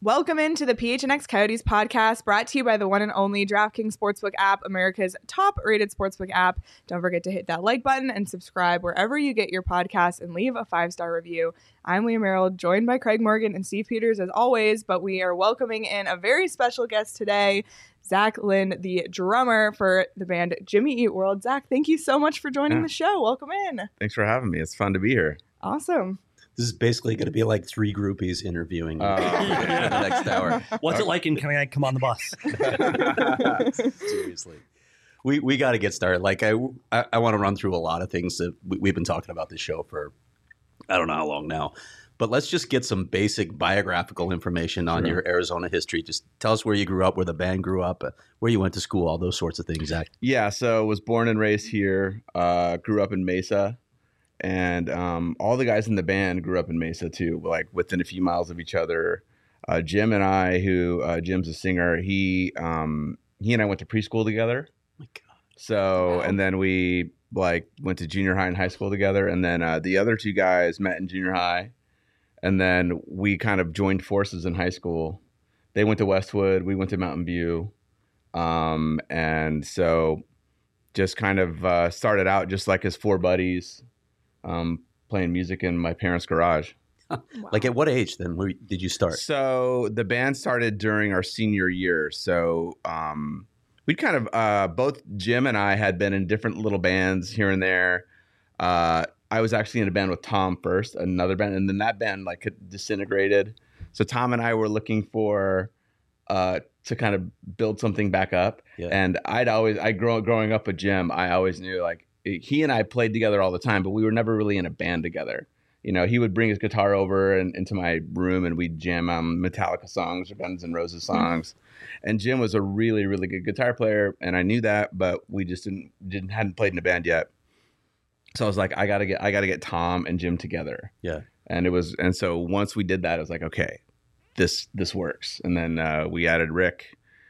Welcome into the PHNX Coyotes podcast, brought to you by the one and only DraftKings Sportsbook app, America's top-rated sportsbook app. Don't forget to hit that like button and subscribe wherever you get your podcasts and leave a 5-star review. I'm Leah Merrill, joined by Craig Morgan and Steve Peters as always, but we are welcoming in a very special guest today, Zach Lind, the drummer for the band Jimmy Eat World. Zach, thank you so much for joining the show. Welcome in. Thanks for having me. It's fun to be here. Awesome. This is basically going to be like 3 groupies interviewing you for the next hour. What's it like and can I come on the bus? Seriously. We got to get started. Like I want to run through a lot of things that we've been talking about this show for I don't know how long now. But let's just get some basic biographical information on your Arizona history. Just tell us where you grew up, where the band grew up, where you went to school, all those sorts of things, Zach. Yeah, so was born and raised here, grew up in Mesa. And all the guys in the band grew up in Mesa too, like within a few miles of each other. Jim and I, Jim's a singer, he and I went to preschool together. Oh my God. So, and then we went to junior high and high school together. And then the other 2 guys met in junior high. And then we kind of joined forces in high school. They went to Westwood, we went to Mountain View. And so just kind of started out just like as 4 buddies. Playing music in my parents' garage. Wow. Like at what age then did you start? So the band started during our senior year. So we kind of both Jim and I had been in different little bands here and there. I was actually in a band with Tom first, another band, and then that band disintegrated. So Tom and I were looking for to kind of build something back up. Yeah. And growing up with Jim, I always knew he and I played together all the time, but we were never really in a band together. You know, he would bring his guitar over into my room and we'd jam on Metallica songs or Guns N' Roses songs. And Jim was a really, really good guitar player. And I knew that, but we just hadn't played in a band yet. So I was like, I gotta get Tom and Jim together. Yeah. And so once we did that, I was like, okay, this works. And then we added Rick,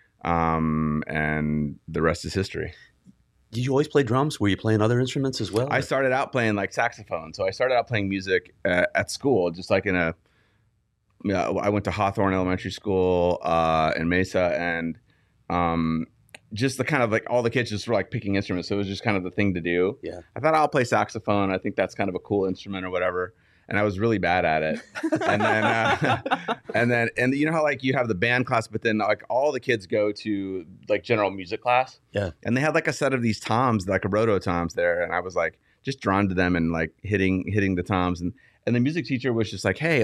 and the rest is history. Did you always play drums? Were you playing other instruments as well? I started out playing saxophone. So I started out playing music at school, just like I went to Hawthorne Elementary School in Mesa, and just the kind of all the kids just were picking instruments. So it was just kind of the thing to do. Yeah. I thought I'll play saxophone. I think that's kind of a cool instrument or whatever. And I was really bad at it. And then and you know how you have the band class, but then all the kids go to general music class. Yeah. And they had a set of these toms, a roto toms there, and I was just drawn to them and hitting the toms. And the music teacher was just hey,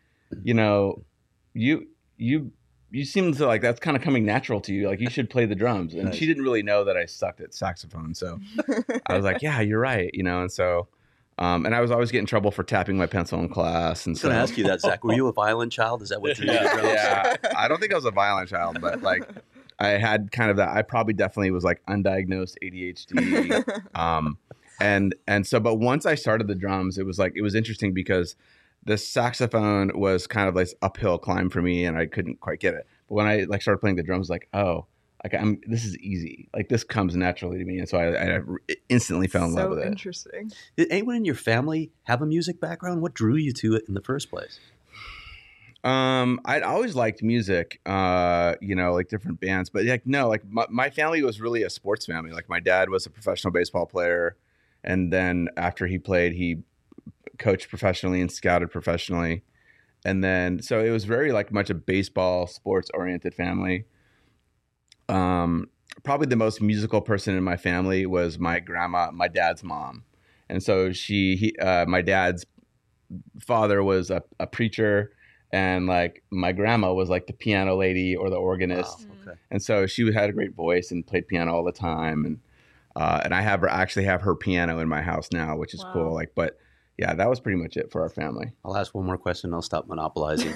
you seem to that's kind of coming natural to you. You should play the drums. And she didn't really know that I sucked at saxophone. So I was yeah, you're right. And so and I was always getting in trouble for tapping my pencil in class. And I was going to ask you that, Zach. Were you a violent child? Is that what you did? Yeah. I don't think I was a violent child, but I had kind of that. I probably definitely was undiagnosed ADHD. And so, but once I started the drums, it was interesting because the saxophone was kind of uphill climb for me, and I couldn't quite get it. But when I started playing the drums, this is easy. This comes naturally to me, and so I instantly fell in love with it. So interesting. Did anyone in your family have a music background? What drew you to it in the first place? I'd always liked music, different bands, but my family was really a sports family. My dad was a professional baseball player, and then after he played, he coached professionally and scouted professionally, and then so it was very much a baseball sports oriented family. Probably the most musical person in my family was my grandma, my dad's mom. And so my dad's father was a preacher, and my grandma was the piano lady or the organist. Wow, okay. And so she had a great voice and played piano all the time. And I actually have her piano in my house now, which is cool. But yeah, that was pretty much it for our family. I'll ask one more question. I'll stop monopolizing.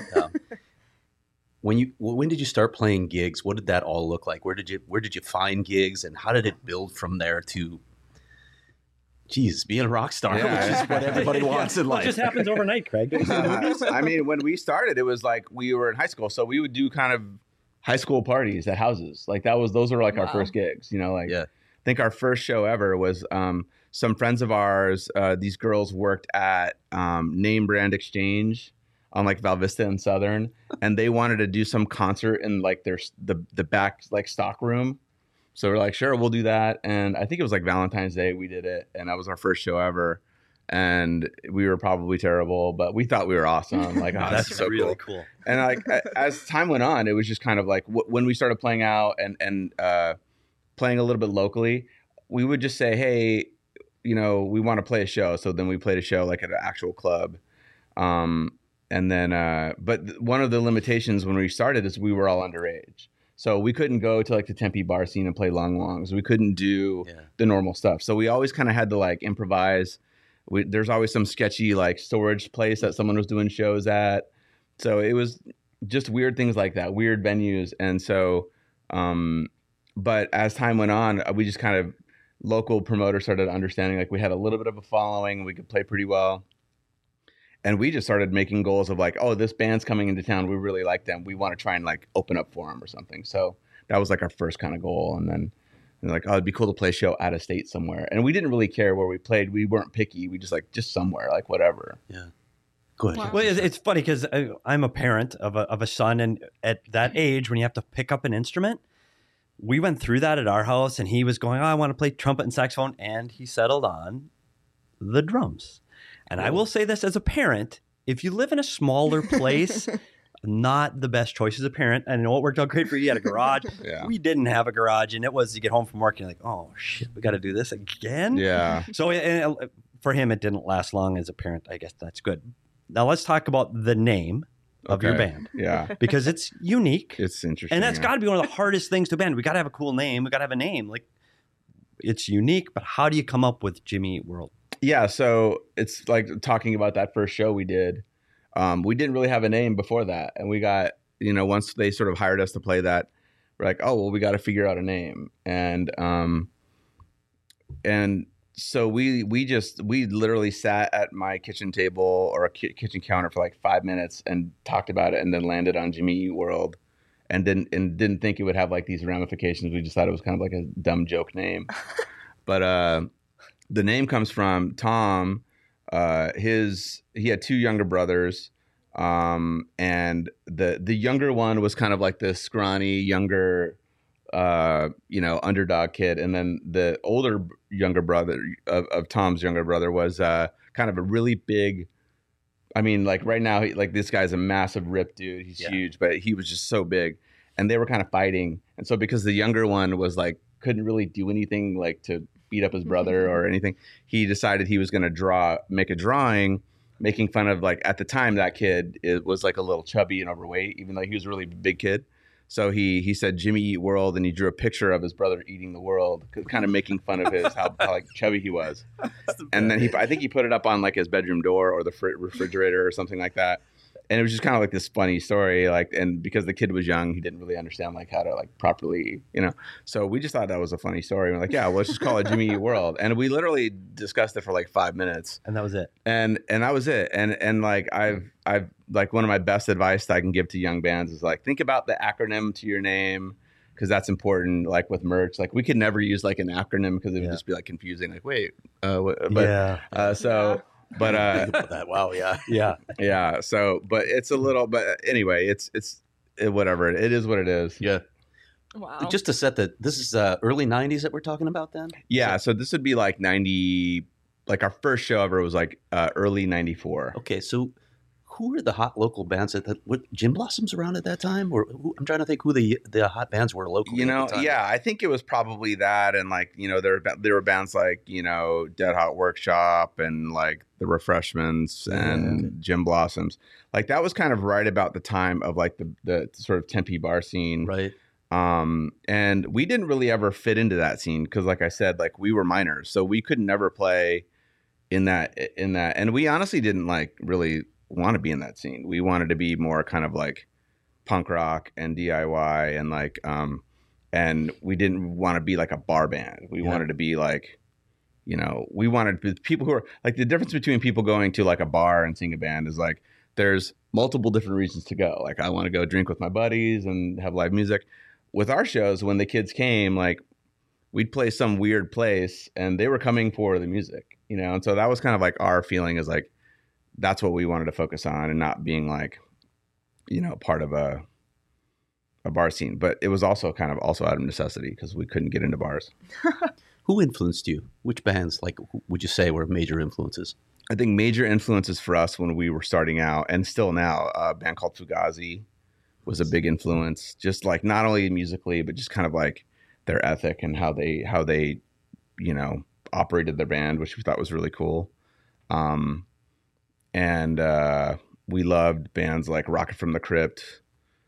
When did you start playing gigs? What did that all look like? Where did you find gigs, and how did it build from there to, being a rock star, which is what everybody wants in life? It just happens overnight, Craig. I mean, when we started, it was we were in high school, so we would do kind of high school parties at houses. Those were our first gigs. I think our first show ever was some friends of ours. These girls worked at Name Brand Exchange on like Val Vista and Southern, and they wanted to do some concert in like the back like stock room. So we're like, sure, we'll do that. And I think it was like Valentine's Day we did it, and that was our first show ever. And we were probably terrible, but we thought we were awesome. Like, oh, That's so really cool. cool. And like as time went on, it was just kind of like when we started playing out and playing a little bit locally, we would just say, hey, you know, we want to play a show. So then we played a show like at an actual club. And then, but one of the limitations when we started is we were all underage. So we couldn't go to like the Tempe bar scene and play long longs. We couldn't do the normal stuff. So we always kind of had to like improvise. There's always some sketchy like storage place that someone was doing shows at. So it was just weird things like that, weird venues. And so, but as time went on, we just kind of, local promoters started understanding like we had a little bit of a following, we could play pretty well. And we just started making goals of like, oh, this band's coming into town. We really like them. We want to try and like open up for them or something. So that was like our first kind of goal. And then like, oh, it'd be cool to play a show out of state somewhere. And we didn't really care where we played. We weren't picky. We just like, just somewhere, like whatever. Yeah. Go ahead. Wow. Well, it's funny because I'm a parent of a son, and at that age, when you have to pick up an instrument, we went through that at our house, and he was going, oh, I want to play trumpet and saxophone, and he settled on the drums. And I will say this as a parent, if you live in a smaller place, not the best choice as a parent. I know it worked out great for you. You had a garage. Yeah. We didn't have a garage, and it was you get home from work and you're like, oh, shit, we got to do this again? Yeah. So for him, it didn't last long as a parent. I guess that's good. Now let's talk about the name of your band. Yeah. Because it's unique. It's interesting. And that's got to be one of the hardest things to band. We got to have a cool name. We got to have a name. Like, it's unique, but how do you come up with Jimmy Eat World? Yeah, so it's like talking about that first show we did. We didn't really have a name before that, and we got, you know, once they sort of hired us to play that, we're like, oh well, we got to figure out a name, and so we literally sat at my kitchen table or a kitchen counter for like 5 minutes and talked about it, and then landed on Jimmy Eat World, and didn't think it would have like these ramifications. We just thought it was kind of like a dumb joke name, but the name comes from Tom. He had two younger brothers, and the younger one was kind of like the scrawny younger, underdog kid, and then the older younger brother of Tom's younger brother was kind of a really big. I mean, like right now, this guy's a massive ripped dude. He's huge, but he was just so big, and they were kind of fighting, and so because the younger one was like couldn't really do anything like to beat up his brother or anything, he decided he was going to make a drawing making fun of, like, at the time that kid was like a little chubby and overweight, even though he was a really big kid. So he said Jimmy Eat World, and he drew a picture of his brother eating the world, kind of making fun of his how like chubby he was. And then I think he put it up on like his bedroom door or the refrigerator or something like that. And it was just kind of like this funny story, like, and because the kid was young, he didn't really understand like how to like properly, So we just thought that was a funny story. We're like, yeah, well, let's just call it Jimmy Eat World. And we literally discussed it for like 5 minutes. And that was it. And that was it. And like I've like one of my best advice that I can give to young bands is like think about the acronym to your name, because that's important. Like with merch, like we could never use like an acronym because it would just be like confusing. Like wait, But wow, yeah. So, but it's a little. But anyway, it's whatever. It is what it is. Yeah. Wow. Just to set this is early '90s that we're talking about then. Yeah. So this would be like 90. Like our first show ever was like early '94. Okay, so who were the hot local bands were Gin Blossoms around at that time? Or I'm trying to think who the hot bands were locally. At the time. Yeah, I think it was probably that, and like there were bands like Dead Hot Workshop and like the Refreshments and Gin Blossoms. Like that was kind of right about the time of like the sort of Tempe bar scene, right? And we didn't really ever fit into that scene because, like I said, like we were minors, so we could never play in that, and we honestly didn't like really want to be in that scene. We wanted to be more kind of like punk rock and DIY and like and we didn't want to be like a bar band. We wanted to be like, we wanted people who are like, the difference between people going to like a bar and seeing a band is like there's multiple different reasons to go. Like I want to go drink with my buddies and have live music. With our shows, when the kids came, like we'd play some weird place and they were coming for the music, and so that was kind of like our feeling is like that's what we wanted to focus on, and not being like, part of a bar scene. But it was also kind of also out of necessity because we couldn't get into bars. Who influenced you? Which bands, like, would you say were major influences? I think major influences for us when we were starting out, and still now, a band called Fugazi was a big influence. Just like not only musically, but just kind of like their ethic and how they operated their band, which we thought was really cool. And we loved bands like Rocket from the Crypt.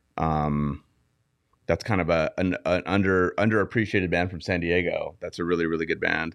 That's kind of an underappreciated band from San Diego. That's a really, really good band.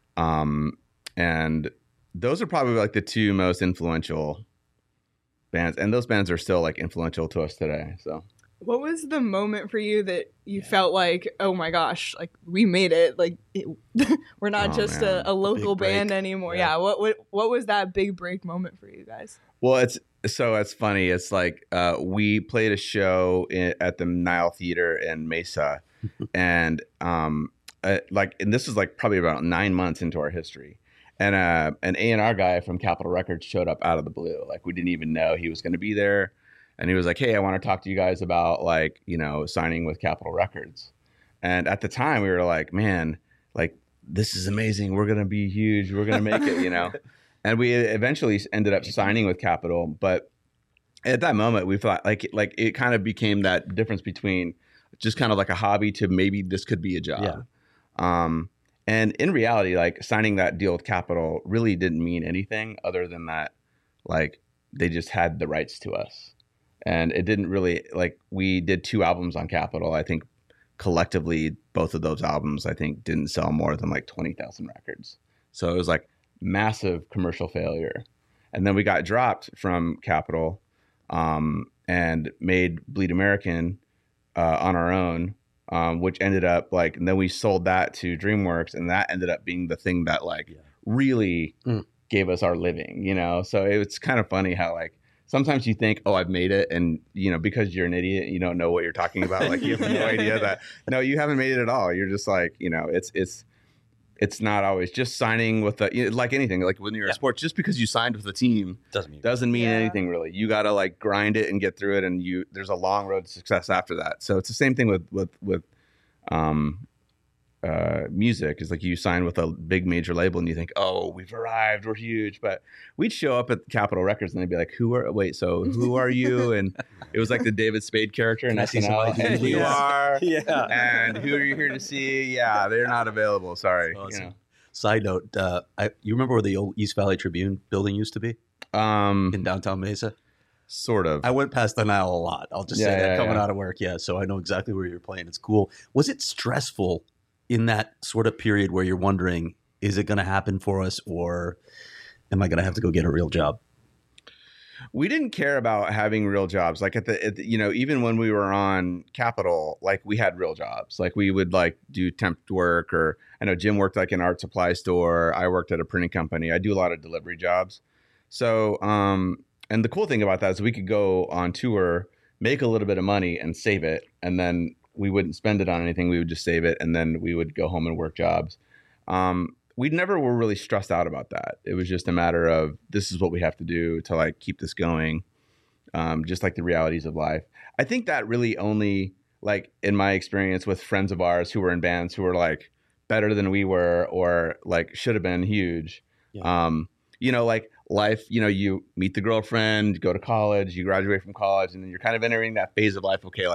And those are probably like the two most influential bands. And those bands are still like influential to us today. So what was the moment for you that you felt like, oh my gosh, like we made it? Like we're not just a local band anymore. Yeah. What was that big break moment for you guys? Well, it's funny. It's like we played a show at the Nile Theater in Mesa, and and this is like probably about 9 months into our history, and an A&R guy from Capitol Records showed up out of the blue. Like we didn't even know he was going to be there, and he was like, "Hey, I want to talk to you guys about signing with Capitol Records." And at the time, we were like, "Man, like this is amazing. We're going to be huge. We're going to make it." And we eventually ended up signing with Capitol, but at that moment we thought like it kind of became that difference between just kind of like a hobby to maybe this could be a job. Yeah. And in reality, like signing that deal with Capitol really didn't mean anything other than that, like they just had the rights to us, and it didn't really like we did 2 albums on Capitol. I think collectively both of those albums I think didn't sell more than like 20,000 records. So it was like massive commercial failure. And then we got dropped from Capitol and made Bleed American on our own, which ended up and then we sold that to DreamWorks, and that ended up being the thing that really gave us our living, So it's kind of funny how sometimes you think, oh, I've made it. And, because you're an idiot, you don't know what you're talking about. Like you have no idea that, no, you haven't made it at all. You're just like, it's not always just signing with like anything, like when you're in sports, just because you signed with a team doesn't mean anything really. You got to grind it and get through it. And there's a long road to success after that. So it's the same thing with music. Is like you sign with a big major label and you think, oh, we've arrived, we're huge. But we'd show up at Capitol Records and they'd be like, who are you? And it was like the David Spade character in SNL. And who you are, and who are you here to see? Yeah, they're not available. Sorry. Awesome. Side note, you remember where the old East Valley Tribune building used to be? In downtown Mesa? Sort of. I went past the Nile a lot. I'll just say that coming out of work. Yeah, so I know exactly where you're playing. It's cool. Was it stressful in that sort of period where you're wondering, is it going to happen for us, or am I going to have to go get a real job? We didn't care about having real jobs. Like even when we were on Capitol, like we had real jobs. Like we would do temp work, or I know Jim worked an art supply store. I worked at a printing company. I do a lot of delivery jobs. So, and the cool thing about that is we could go on tour, make a little bit of money and save it. And then we wouldn't spend it on anything. We would just save it, and then we would go home and work jobs. We never were really stressed out about that. It was just a matter of, this is what we have to do to keep this going. Just like the realities of life. I think that really only in my experience with friends of ours who were in bands who were better than we were, or should have been huge. Yeah. Life, you meet the girlfriend, go to college, you graduate from college, and then you're kind of entering that phase of life. Okay.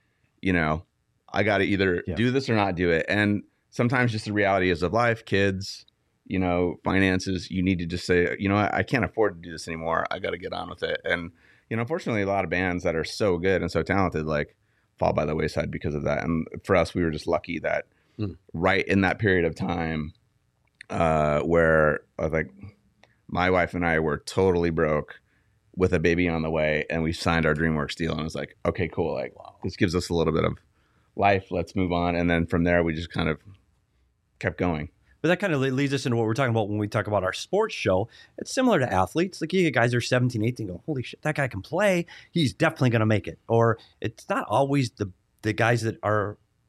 I got to either do this or not do it. And sometimes just the reality is of life, kids, finances, you need to just say, I can't afford to do this anymore. I got to get on with it. And, unfortunately, a lot of bands that are so good and so talented, fall by the wayside because of that. And for us, we were just lucky that right in that period of time where my wife and I were totally broke with a baby on the way, and we signed our DreamWorks deal, and it was like, okay, cool. This gives us a little bit of life. Let's move on. And then from there, we just kind of kept going. But that kind of leads us into what we're talking about when we talk about our sports show. It's similar to athletes. You get guys that are 17, 18 go, holy shit, that guy can play. He's definitely going to make it. Or it's not always the guys that are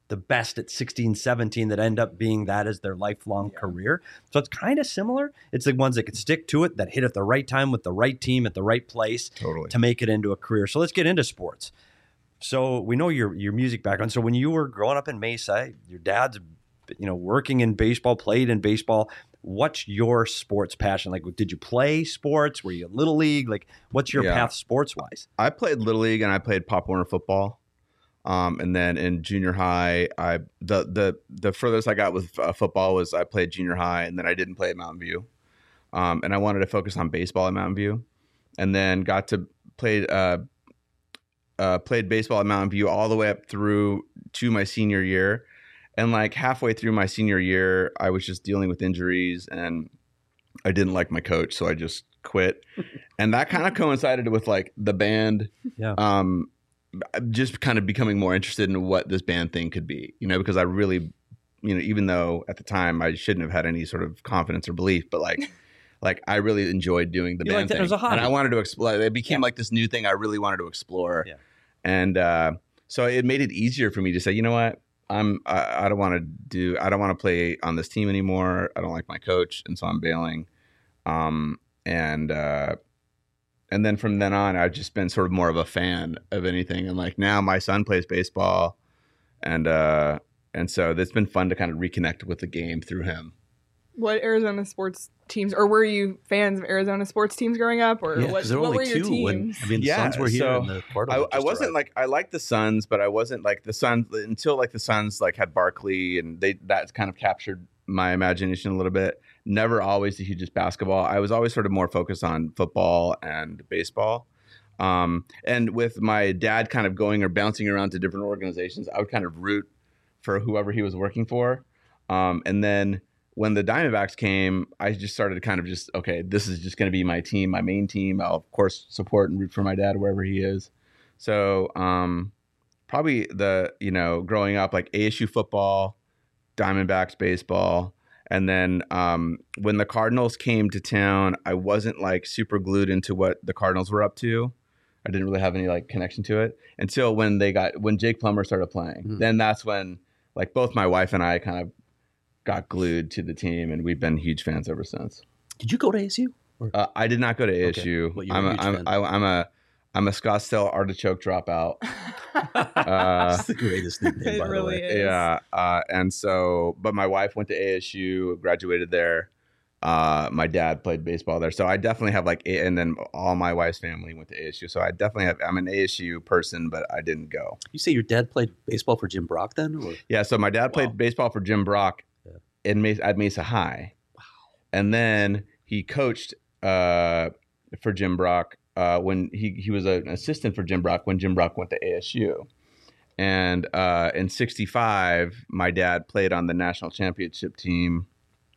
the best at 16, 17 that end up being that as their lifelong career. So it's kind of similar. It's the ones that can stick to it, that hit at the right time with the right team at the right place to make it into a career. So let's get into sports. So we know your music background. So when you were growing up in Mesa, your dad's working in baseball, played in baseball. What's your sports passion? Like, did you play sports? Were you in Little League? Like, what's your path sports-wise? I played Little League and I played Pop Warner football. And then in junior high, the furthest I got with football was I played junior high, and then I didn't play at Mountain View. And I wanted to focus on baseball at Mountain View, and then got to played baseball at Mountain View all the way up through to my senior year. And like halfway through my senior year, I was just dealing with injuries, and I didn't like my coach, so I just quit. And that kind of coincided with like the band. Yeah. Just kind of becoming more interested in what this band thing could be, because I really, even though at the time I shouldn't have had any sort of confidence or belief, but like I really enjoyed doing the band thing. It was a hobby. And I wanted to explore. It became like this new thing I really wanted to explore. Yeah. And so it made it easier for me to say, you know what, I don't want to play on this team anymore. I don't like my coach, and so I'm bailing. And then from then on, I've just been sort of more of a fan of anything. And like now my son plays baseball, and so it's been fun to kind of reconnect with the game through him. What Arizona sports teams, or were you fans of Arizona sports teams growing up, or what were your teams? The Suns were here, and the Cardinals. I wasn't like, I liked the Suns, but I wasn't like the Suns until like the Suns like had Barkley, and that's kind of captured my imagination a little bit. Never always the hugest basketball. I was always sort of more focused on football and baseball. And with my dad kind of going or bouncing around to different organizations, I would kind of root for whoever he was working for. And then when the Diamondbacks came, I just started kind of just, okay, this is just going to be my team, my main team. I'll, of course, support and root for my dad wherever he is. So probably growing up, like ASU football, Diamondbacks baseball. And then when the Cardinals came to town, I wasn't like super glued into what the Cardinals were up to. I didn't really have any like connection to it until when Jake Plummer started playing. Mm-hmm. Then that's when like both my wife and I kind of got glued to the team, and we've been huge fans ever since. Did you go to ASU? I did not go to ASU. Okay. I'm a Scottsdale Artichoke dropout. It's the greatest nickname, by the way. Is. Yeah. And so, but my wife went to ASU, graduated there. My dad played baseball there. So I definitely have and then all my wife's family went to ASU. So I'm an ASU person, but I didn't go. You say your dad played baseball for Jim Brock then? Or? Yeah. So my dad played baseball for Jim Brock at Mesa High. Wow. And then he coached for Jim Brock when he was an assistant for Jim Brock when Jim Brock went to ASU. And in '65, my dad played on the national championship team.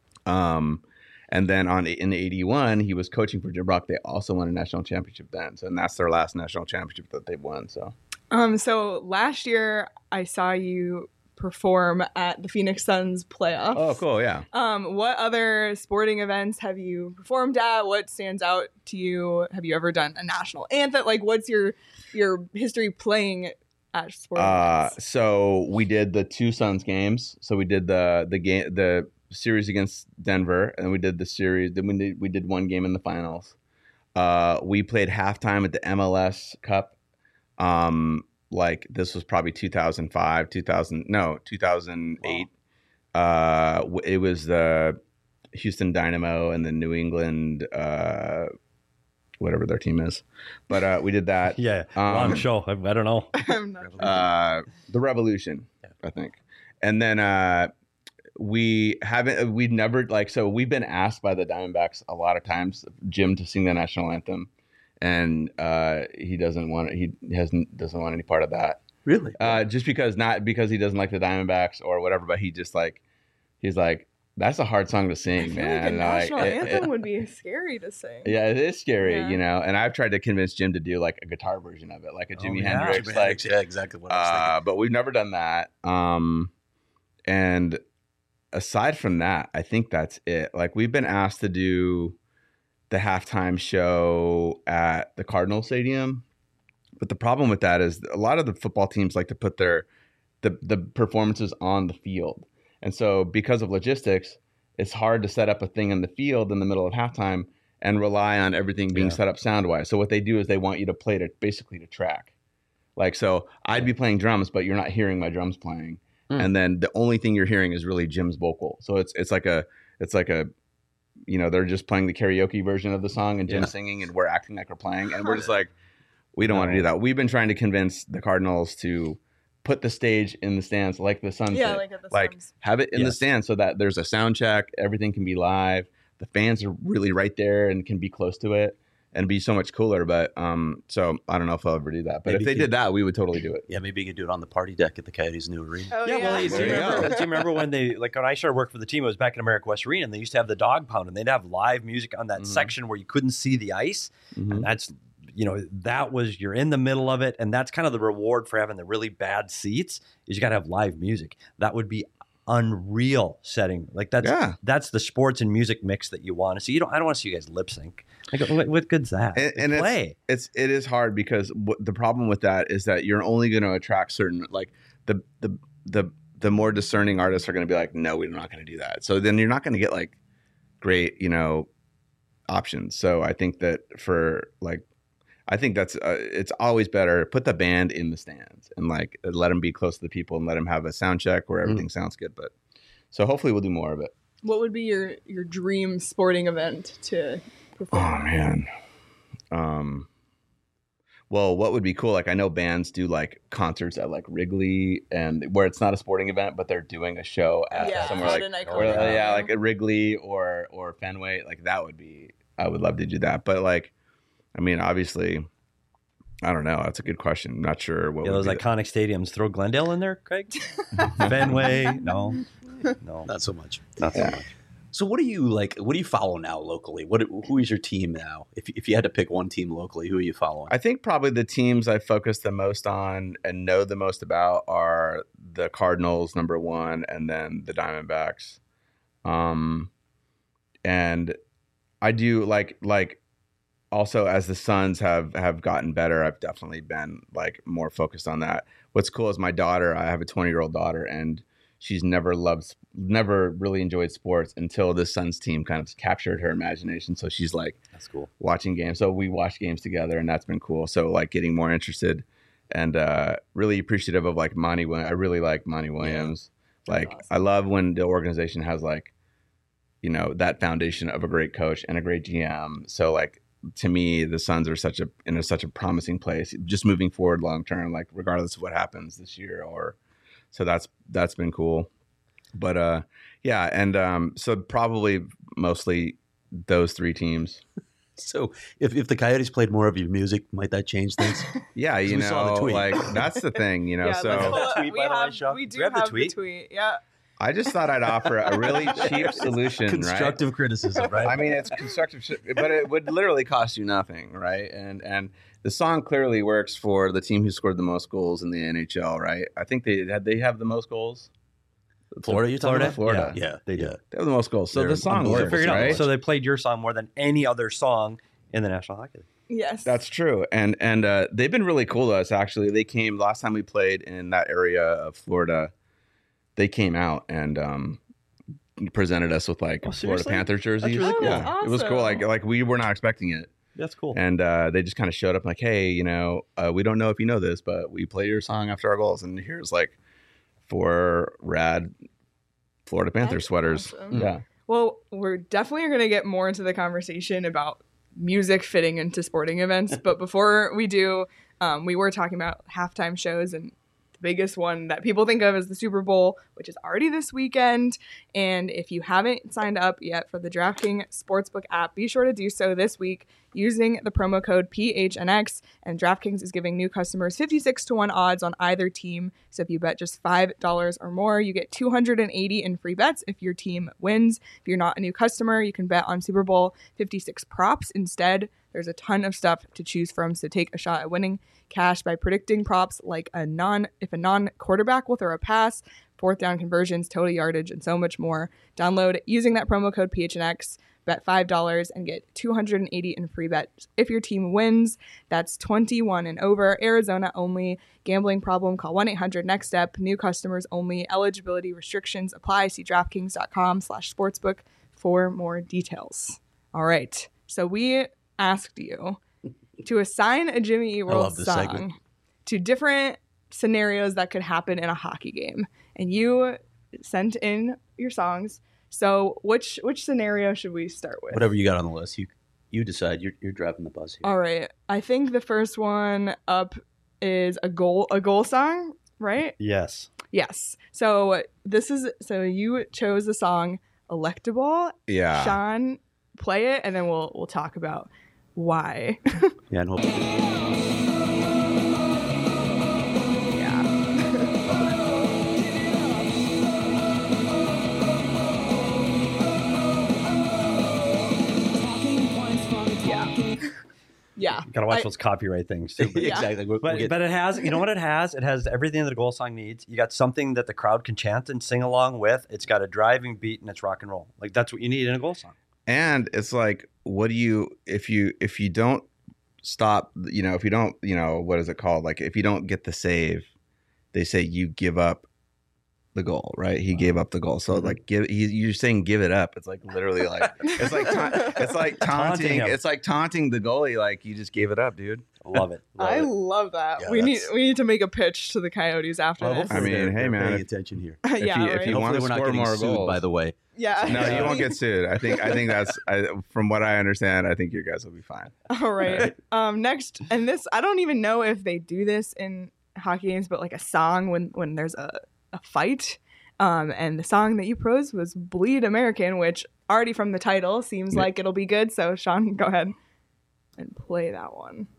And then in '81, he was coaching for Jim Brock. They also won a national championship then. So, and that's their last national championship that they've won. So last year I saw you perform at the Phoenix Suns playoffs. Oh, cool. Yeah. What other sporting events have you performed at? What stands out to you? Have you ever done a national anthem? Like, what's your history playing at sporting events? So we did the two Suns games. So we did the series against Denver, and we did the series. Then we did one game in the finals. We played halftime at the MLS Cup. Like this was probably 2005, 2008. It was the Houston Dynamo and the New England, whatever their team is. But we did that. Yeah, long show. I don't know. I'm not sure. The Revolution, I think. And then we've been asked by the Diamondbacks a lot of times, Jim, to sing the national anthem. And he doesn't want any part of that. Really? Just because, not because he doesn't like the Diamondbacks or whatever, but he's like, that's a hard song to sing, man. Like a national anthem would be scary to sing. Yeah, it is scary, And I've tried to convince Jim to do like a guitar version of it, like a Jimi Hendrix. Yeah, exactly what I was thinking. But we've never done that. And aside from that, I think that's it. Like we've been asked to do the halftime show at the Cardinal Stadium. But the problem with that is a lot of the football teams like to put their the performances on the field. And so because of logistics, it's hard to set up a thing in the field in the middle of halftime and rely on everything being set up sound wise. So what they do is they want you to play to basically to track. Like, so I'd be playing drums, but you're not hearing my drums playing. And then the only thing you're hearing is really Jim's vocal. So it's like a, you know, they're just playing the karaoke version of the song and Jim's singing and we're acting like we're playing. And we're just like, we don't want to do that. We've been trying to convince the Cardinals to put the stage in the stands like the Suns did. like at the Like Suns. have it in the stands so that there's a sound check, everything can be live. The fans are really right there and can be close to it and be so much cooler. But so I don't know if I'll ever do that. But Maybe if they you- did that, we would totally do it. Yeah, maybe you could do it on the party deck at the Coyotes' new arena. Oh, Yeah, well, do There you you remember, go. do you remember when when I started working for the team, it was back in America West Arena, and they used to have the dog pound, and they'd have live music on that section where you couldn't see the ice. And that's, you know, that was, you're in the middle of it. And that's kind of the reward for having the really bad seats is you got to have live music. That would be unreal setting. Like that's the sports and music mix that you want to see. I don't want to see you guys lip sync. Like what good's that? And play. it is hard because the problem with that is that you're only going to attract certain, like the more discerning artists are going to be like, no, we're not going to do that. So then you're not going to get like great, you know, options. So I think that that's it's always better put the band in the stands and like let them be close to the people and let them have a sound check where everything sounds good. But so hopefully we'll do more of it. What would be your dream sporting event to perform? Oh man. Well, what would be cool? Like I know bands do like concerts at like Wrigley and where it's not a sporting event, but they're doing a show at somewhere at like an iconic yeah, venue. like at Wrigley or Fenway. Like that would be. I would love to do that. But like, I mean, obviously, I don't know. That's a good question. I'm not sure what. Yeah, would those be iconic stadiums. Throw Glendale in there, Craig. Fenway, no, Not so much. not so much. So what do you like? What do you follow now locally? Who is your team now? If you had to pick one team locally, who are you following? I think probably the teams I focus the most on and know the most about are the Cardinals, number one, and then the Diamondbacks. And I do like also as the Suns have gotten better, I've definitely been like more focused on that. What's cool is my daughter, I have a 20-year-old daughter, and she's never really enjoyed sports until the Suns team kind of captured her imagination. So she's like, That's cool. watching games. So we watch games together, and that's been cool. So like getting more interested and really appreciative of like Monty Williams. I really like Monty Williams. Like awesome. I love when the organization has like, you know, that foundation of a great coach and a great GM. So like to me, the Suns are such a promising place, just moving forward long term, like regardless of what happens this year so that's been cool. But yeah, and so probably mostly those three teams. So if the Coyotes played more of your music, might that change things? Yeah, you We saw the know, tweet. like that's the thing, you know. Yeah, so let's pull that up- tweet, we by the way, have- Sean? we do Do you have the have tweet? the tweet. Yeah. I just thought I'd offer a really cheap solution, Constructive criticism, right? right? I mean, it's constructive, but it would literally cost you nothing, right? And the song clearly works for the team who scored the most goals in the NHL, right? I think they have the most goals. Florida, you talking about? Florida. Yeah, They do. yeah. They have the most goals. So They're the song unbelievable. works, Figured out. right? So they played your song more than any other song in the National Hockey League. Yes. That's true, and they've been really cool to us. Actually, they came last time we played in that area of Florida. They came out and presented us with like Oh, Florida seriously? Panther jerseys. really cool. Yeah, it was cool. Awesome. Like we were not expecting it, That's cool. and they just kind of showed up like, hey, you know, we don't know if you know this, but we play your song after our goals, and here's like 4 rad Florida Panther That's sweaters. awesome. Yeah. Well, we're definitely going to get more into the conversation about music fitting into sporting events. But before we do, we were talking about halftime shows, and the biggest one that people think of is the Super Bowl, which is already this weekend. And if you haven't signed up yet for the DraftKings Sportsbook app, be sure to do so this week using the promo code PHNX. And DraftKings is giving new customers 56-1 odds on either team. So if you bet just $5 or more, you get $280 in free bets if your team wins. If you're not a new customer, you can bet on Super Bowl 56 props instead. There's a ton of stuff to choose from, so take a shot at winning cash by predicting props like if a non-quarterback will throw a pass, fourth down conversions, total yardage, and so much more. Download using that promo code PHNX Bet $5 and get $280 in free bets if your team wins. That's 21 and over. Arizona only. Gambling problem? Call 1-800-NEXT-STEP. New customers only. Eligibility restrictions apply. See DraftKings.com/sportsbook for more details. All right. So we asked you to assign a Jimmy Eat World this song segment. to different scenarios that could happen in a hockey game. And you sent in your songs. So which scenario should we start with? Whatever you got on the list, you decide. You're driving the bus here. All right. I think the first one up is a goal song, right? Yes. Yes. So you chose the song Electable. Yeah. Sean, play it and then we'll talk about why. Yeah, and Yeah. You gotta watch those copyright things too. But, exactly. but it has, you know what it has? It has everything that a goal song needs. You got something that the crowd can chant and sing along with. It's got a driving beat and it's rock and roll. Like that's what you need in a goal song. And it's like, what do you if you don't stop, if you don't, what is it called? Like if you don't get the save, they say you give up the goal, right? He gave up the goal. So like you're saying give it up. It's like literally like it's like taunting. It's like taunting the goalie. Like you just gave it up, dude. Love it. I love that. Yeah, we need to make a pitch to the Coyotes after this. I mean, hey man, paying attention here. if you want to Hopefully we're not score getting more sued, goals, by the way. Yeah. No, you won't get sued. I think that's from what I understand. I think you guys will be fine. All right. Next, and this I don't even know if they do this in hockey games, but like a song when there's a fight. And the song that you chose was Bleed American, which already from the title seems like it'll be good. So Sean, go ahead and play that one.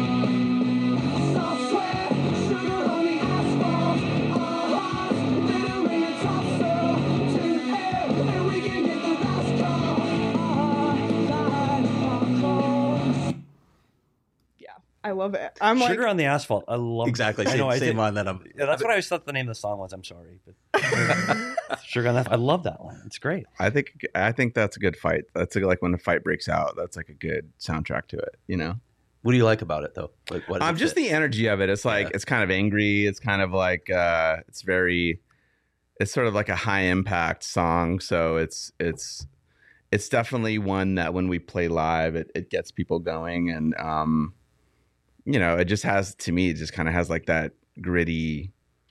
I love it. I'm Sugar on the Asphalt. I love exactly. I know. Same on that. That's what I always thought the name of the song was. I'm sorry, but Sugar on the Asphalt. I love that one. It's great. I think that's a good fight. That's like when the fight breaks out. That's like a good soundtrack to it. What do you like about it though? Like what? Just the energy of it. It's like it's kind of angry. It's kind of like it's sort of like a high impact song. So it's definitely one that when we play live, it gets people going and it just has, to me, it just kind of has like that gritty,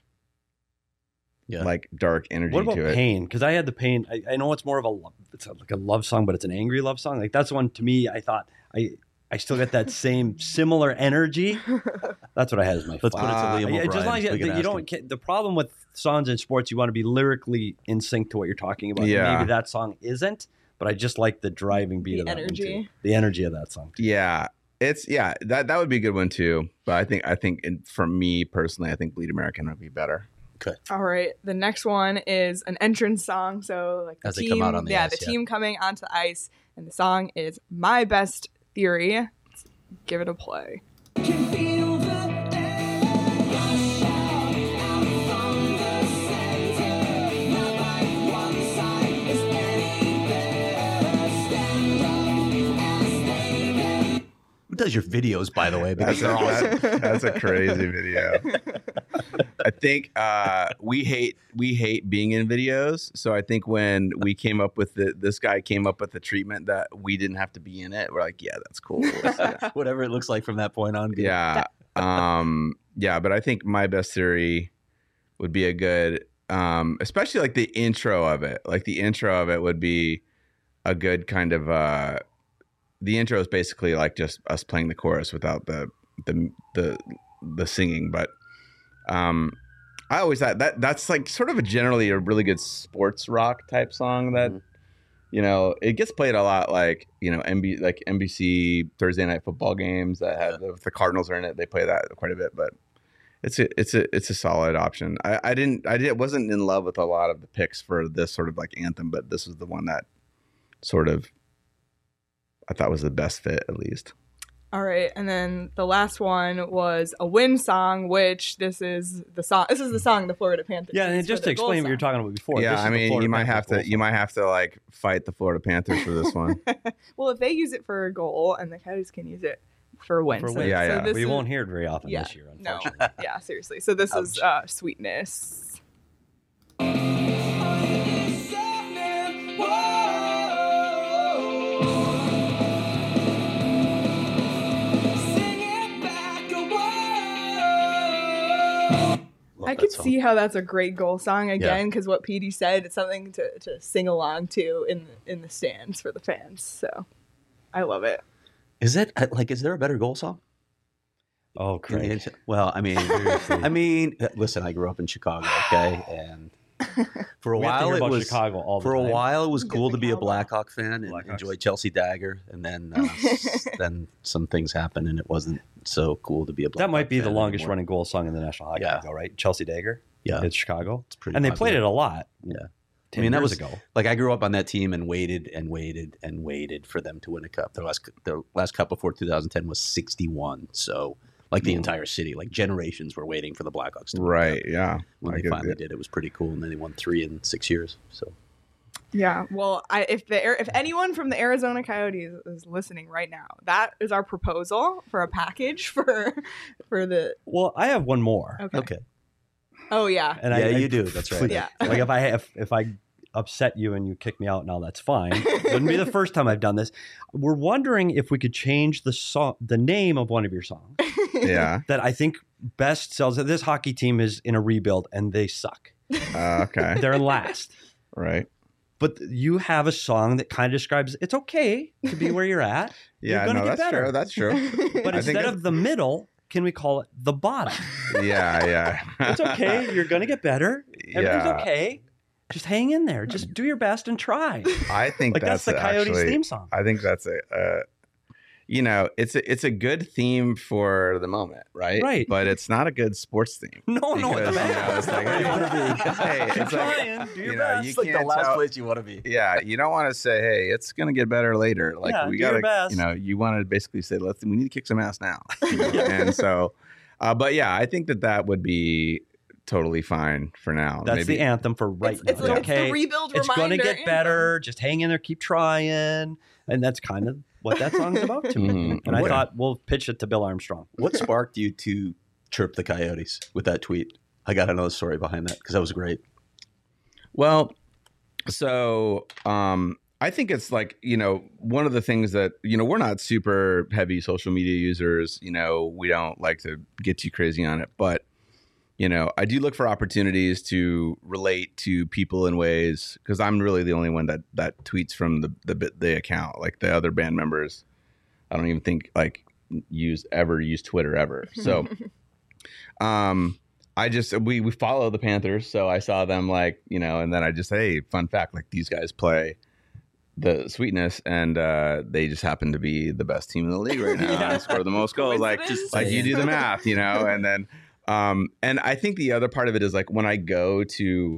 like dark energy to it. What about Pain? Because I had the Pain. I know it's more of it's like a love song, but it's an angry love song. Like that's one to me. I thought I still get that same similar energy. That's what I had as my. Let's put it to Liam O'Brien. Just like you don't. The problem with songs in sports, you want to be lyrically in sync to what you're talking about. Yeah. Maybe that song isn't, but I just like the driving beat of that energy. one too. The energy of that song. Too. Yeah. That would be a good one too. But I think for me personally, I think Bleed American would be better. Okay. All right. The next one is an entrance song. So like as they come out on the ice, the team coming onto the ice, and the song is My Best Theory. Let's give it a play. Who does your videos, by the way? Because they're awesome. That's a crazy video. I think we hate being in videos. So I think when we came up with this guy came up with the treatment that we didn't have to be in it. We're like, yeah, that's cool. Whatever it looks like from that point on. Yeah. But I think My Best Theory would be a good, especially like the intro of it. Like the intro of it would be a good kind of. The intro is basically like just us playing the chorus without the singing, but I always thought that's like sort of generally a really good sports rock type song that it gets played a lot, like NBC Thursday night football games that have if the Cardinals are in it, they play that quite a bit, but it's a solid option. I wasn't in love with a lot of the picks for this sort of like anthem, but this was the one that sort of I thought was the best fit, at least. All right, and then the last one was a win song, which this is the song. This is the song the Florida Panthers. Yeah, and used just for to their goal explain what you're song. talking about before. Yeah, this is I the mean, Florida you might Panthers have goal to you song. might have to like fight the Florida Panthers for this one. Well, if they use it for a goal, and the Coyotes can use it for a win, For so, win. Yeah, so yeah. this We is, won't hear it very often yeah, this year, no, unfortunately. yeah, seriously. So this is Sweetness. Love I that could song. see how that's a great goal song again, because what Petey said, it's something to sing along to in the stands for the fans. So I love it. Is it like? Is there a better goal song? Oh, Craig. Well, I mean, listen. I grew up in Chicago, okay, and for a We have to while hear it about was Chicago all the for time. a while it was Get cool the to be a cowbell. Blackhawk fan and Blackhawks. enjoy Chelsea Dagger, and then then some things happened and it wasn't so cool to be a Blackhawk That might be the fan longest anymore. running goal song in the National Hockey Yeah. League, though, right? Chelsea Dagger. Yeah. It's Chicago. It's pretty And they played popular. it a lot. Yeah. 10 I mean, that years was ago. like I grew up on that team and waited and waited and waited for them to win a cup. Their last cup before 2010 was 61. So like the entire city, like generations were waiting for the Blackhawks to win a Right? cup. Yeah. When I they get finally it. did, it was pretty cool. And then they won 3 in 6 years. So Yeah, well, if anyone from the Arizona Coyotes is listening right now, that is our proposal for a package for the. Well, I have one more. okay. Oh yeah, And Yeah, I you do. That's right. Yeah. Like if I upset you and you kick me out now, that's fine. It wouldn't be the first time I've done this. We're wondering if we could change the name of one of your songs Yeah. that I think best sells. This hockey team is in a rebuild and they suck. Okay. They're last. Right. But you have a song that kind of describes it's okay to be where you're at. Yeah. You're gonna No, get that's better. true. That's true. But I think instead of the middle, can we call it the bottom? Yeah. Yeah. It's okay. You're going to get better. Everything's Yeah. okay. Just hang in there. Just do your best and try. I think Like that's the Coyotes actually, theme song. I think that's it's a good theme for the moment, right? Right. But it's not a good sports theme. No, no, Because, it's it's like, Where you wanna be. hey, Keep it's like, trying. Do your you know, best. you It's like the can't last tell- place you want to be. Yeah, you don't want to say, "Hey, it's going to get better later." Like Yeah, we do your got to, best. you want to basically say, we need to kick some ass now." And so, but yeah, I think that would be totally fine for now. That's Maybe, the anthem for right it's now. it's the rebuild It's reminder. going to get anthem. better. Just hang in there. Keep trying. And that's kind of what that song's about to me. Mhm. And I What- thought we'll pitch it to Bill Armstrong. What sparked you to chirp the Coyotes with that tweet? I got another story behind that because that was great. Well, so I think it's like, one of the things that, we're not super heavy social media users. We don't like to get too crazy on it. But, I do look for opportunities to relate to people in ways, because I'm really the only one that tweets from the account. Like the other band members, I don't even think use Twitter ever. So we follow the Panthers, so I saw them and then I just, hey, fun fact, these guys play the Sweetness, and they just happen to be the best team in the league right now. Yeah. And score the most goals. Coincidence? You do the math, and then and I think the other part of it is when I go to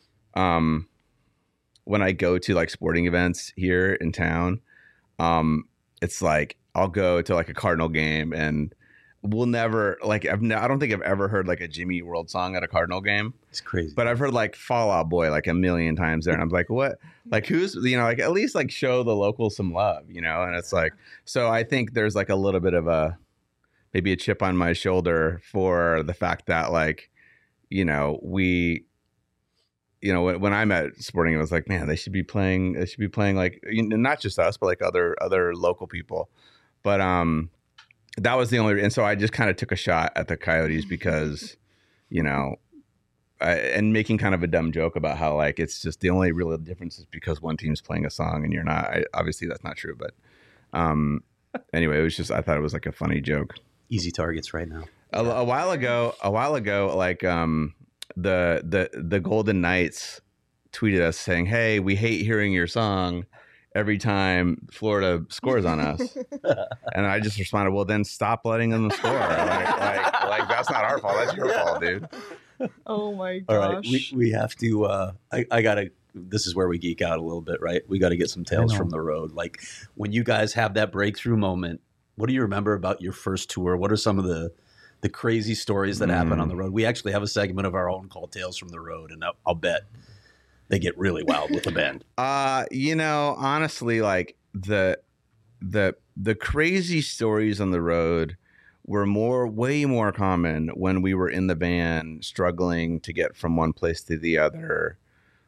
sporting events here in town, it's I'll go to a Cardinal game, and we'll never I don't think I've ever heard a Jimmy Eat World song at a Cardinal game, It's crazy. but I've heard Fall Out Boy a million times there, and I'm like, what? Who's at least show the locals some love, and it's so I think there's a little bit of maybe a chip on my shoulder for the fact that we. When I'm at sporting, it was man, they should be playing not just us, but other local people. But that was the only, and so I just kind of took a shot at the Coyotes because, and making kind of a dumb joke about how it's just the only real difference is because one team's playing a song and you're not. Obviously, that's not true, but anyway, it was just, I thought it was a funny joke. Easy targets right now. A while ago, the Golden Knights tweeted us saying, "Hey, we hate hearing your song every time Florida scores on us." And I just responded, "Well, then stop letting them score. That's not our fault. That's your fault, dude." Oh my All gosh. right, we have to. I gotta. This is where we geek out a little bit, right? We got to get some tales know. from the road. When you guys have that breakthrough moment What do you remember about your first tour? What are some of the crazy stories that happen on the road? We actually have a segment of our own called Tales from the Road, and I'll bet they get really wild with the band. Honestly, like the crazy stories on the road were way more common when we were in the van struggling to get from one place to the other.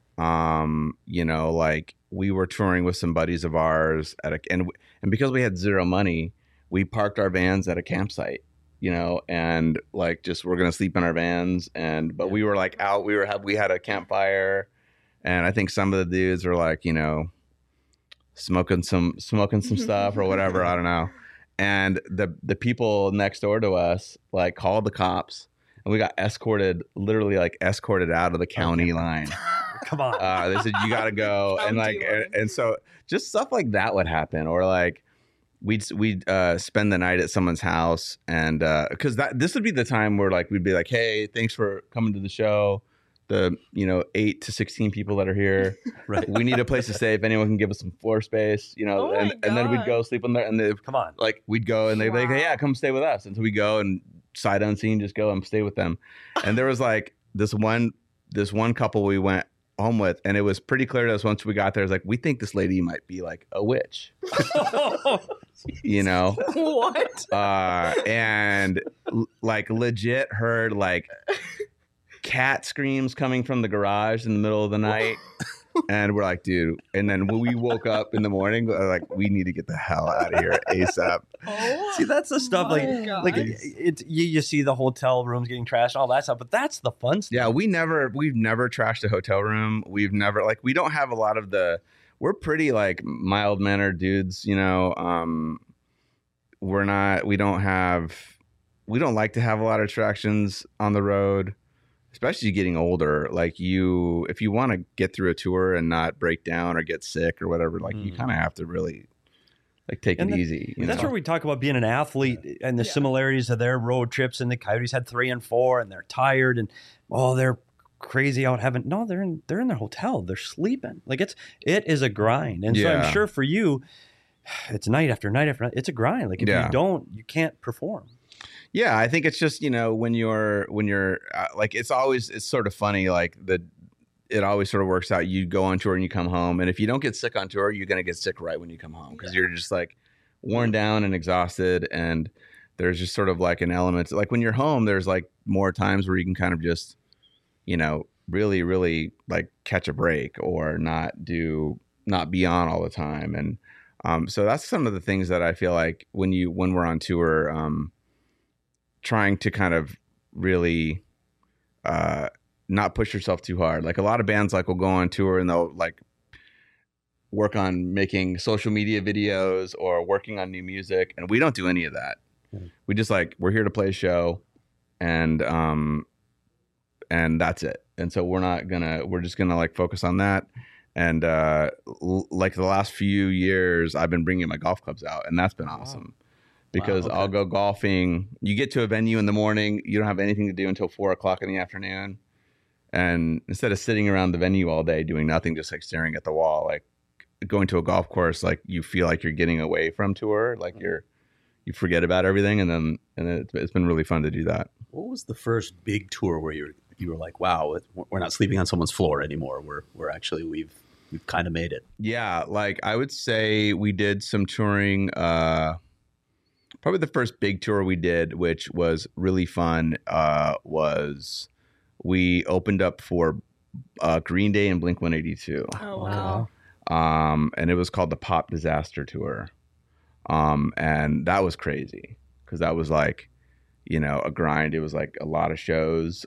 Like we were touring with some buddies of ours and because we had zero money, we parked our vans at a campsite, and like just we're gonna sleep in our vans, but we were like out. We had a campfire, and I think some of the dudes were like, smoking some stuff or whatever. I don't know. And the people next door to us like called the cops, and we got literally escorted out of the county line. Come on. They said you got to go, and so just stuff like that would happen, or like we'd spend the night at someone's house, and because this would be the time where like we'd be like, hey, thanks for coming to the show. The 8 to 16 people that are here, Right? We need a place to stay. If anyone can give us some floor space, and then we'd go sleep in there, and Come on. like we'd go and they'd be like, hey, yeah, come stay with us. And so we go and sight unseen, just go and stay with them. And there was like this one couple we went home with, and it was pretty clear to us once we got there, it's like, we think this lady might be like a witch. What? And like legit heard like cat screams coming from the garage in the middle of the night. And we're like, dude. And then when we woke up in the morning, we're like, we need to get the hell out of here ASAP. See, that's the stuff like gosh. it's you see the hotel rooms getting trashed and all that stuff, but that's the fun stuff. Yeah, we've never trashed a hotel room. We've never we don't have a lot of we're pretty like mild mannered dudes, we don't like to have a lot of attractions on the road, especially getting older. Like if you want to get through a tour and not break down or get sick or whatever, like you kind of have to really like take it easy. That's where we talk about being an athlete and the similarities of their road trips. And the Coyotes had 3 and 4, and they're tired and they're crazy out having. No, they're in their hotel. They're sleeping. Like it is a grind. And so I'm sure for you, it's night after night after night. It's a grind. Like if you don't, you can't perform. Yeah, I think it's just when you're like it's sort of funny, like it always sort of works out. You go on tour and you come home, and if you don't get sick on tour, you're gonna get sick right when you come home because you're just like worn down and exhausted. And there's just sort of like an element like when you're home, there's like more times where you can kind of just really really like catch a break or not be on all the time. And so that's some of the things that I feel like when we're on tour. Trying to kind of really not push yourself too hard. Like a lot of bands like will go on tour and they'll like work on making social media videos or working on new music, and we don't do any of that. We just we're here to play a show, and that's it. And so we're just gonna like focus on that. And like the last few years, I've been bringing my golf clubs out, and that's been awesome. Because I'll go golfing. You get to a venue in the morning, you don't have anything to do until 4:00 in the afternoon. And instead of sitting around the venue all day doing nothing, just like staring at the wall, like going to a golf course, like you feel like you're getting away from tour, like you forget about everything. And it's been really fun to do that. What was the first big tour where you were like, wow, we're not sleeping on someone's floor anymore. We're actually, we've kind of made it. Yeah. Like I would say we did some touring, probably the first big tour we did, which was really fun, was we opened up for Green Day and Blink-182. Oh, wow. And it was called the Pop Disaster Tour. And that was crazy because that was like, a grind. It was like a lot of shows.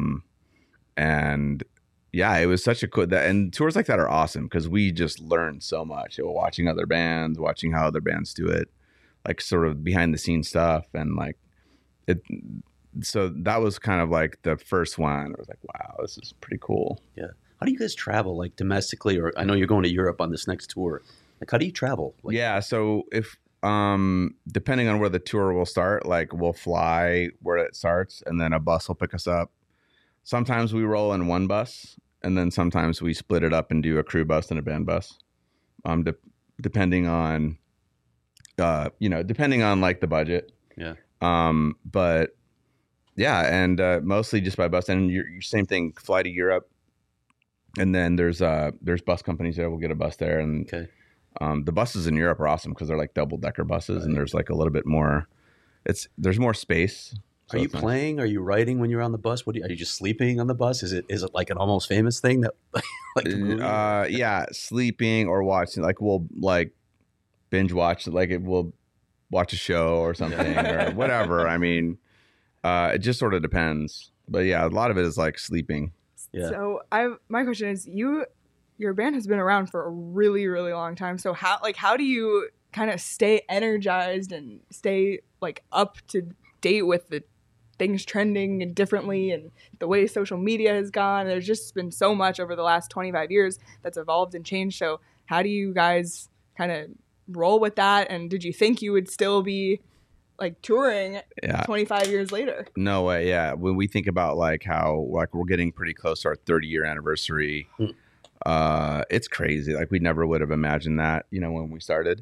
And yeah, it was such a cool, and tours like that are awesome because we just learned so much. Watching other bands, watching how other bands do it. Like sort of behind the scenes stuff, and like it. So that was kind of like the first one. I was like, wow, this is pretty cool. Yeah. How do you guys travel, like domestically, or I know you're going to Europe on this next tour. Like, how do you travel? Like, yeah. So if depending on where the tour will start, like we'll fly where it starts, and then a bus will pick us up. Sometimes we roll in one bus, and then sometimes we split it up and do a crew bus and a band bus, depending on depending on like the budget. Yeah. But yeah, and mostly just by bus. And your same thing, fly to Europe, and then there's bus companies that will get a bus there, and Okay. the buses in Europe are awesome because they're like double-decker buses, and there's like a little bit more. There's more space. So Are you it's nice. playing? Are you writing when you're on the bus? Are you just sleeping on the bus? Is it like an Almost Famous thing that like the movie? Yeah, sleeping or watching. Like we'll like binge watch. Like we'll watch a show or something or whatever. I mean, it just sort of depends. But yeah, a lot of it is like sleeping. Yeah. So my question is, your band has been around for a really, really long time. So how do you kind of stay energized and stay like up to date with the things trending and differently and the way social media has gone? There's just been so much over the last 25 years that's evolved and changed. So how do you guys kind of roll with that? And did you think you would still be like touring 25 years later? No way. Yeah. When we think about like how like we're getting pretty close to our 30-year anniversary, it's crazy. Like we never would have imagined that, when we started.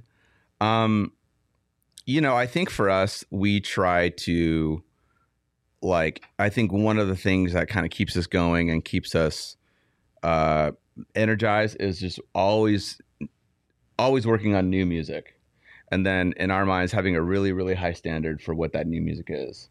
I think for us, we try to I think one of the things that kind of keeps us going and keeps us energized is just always working on new music. And then in our minds, having a really, really high standard for what that new music is.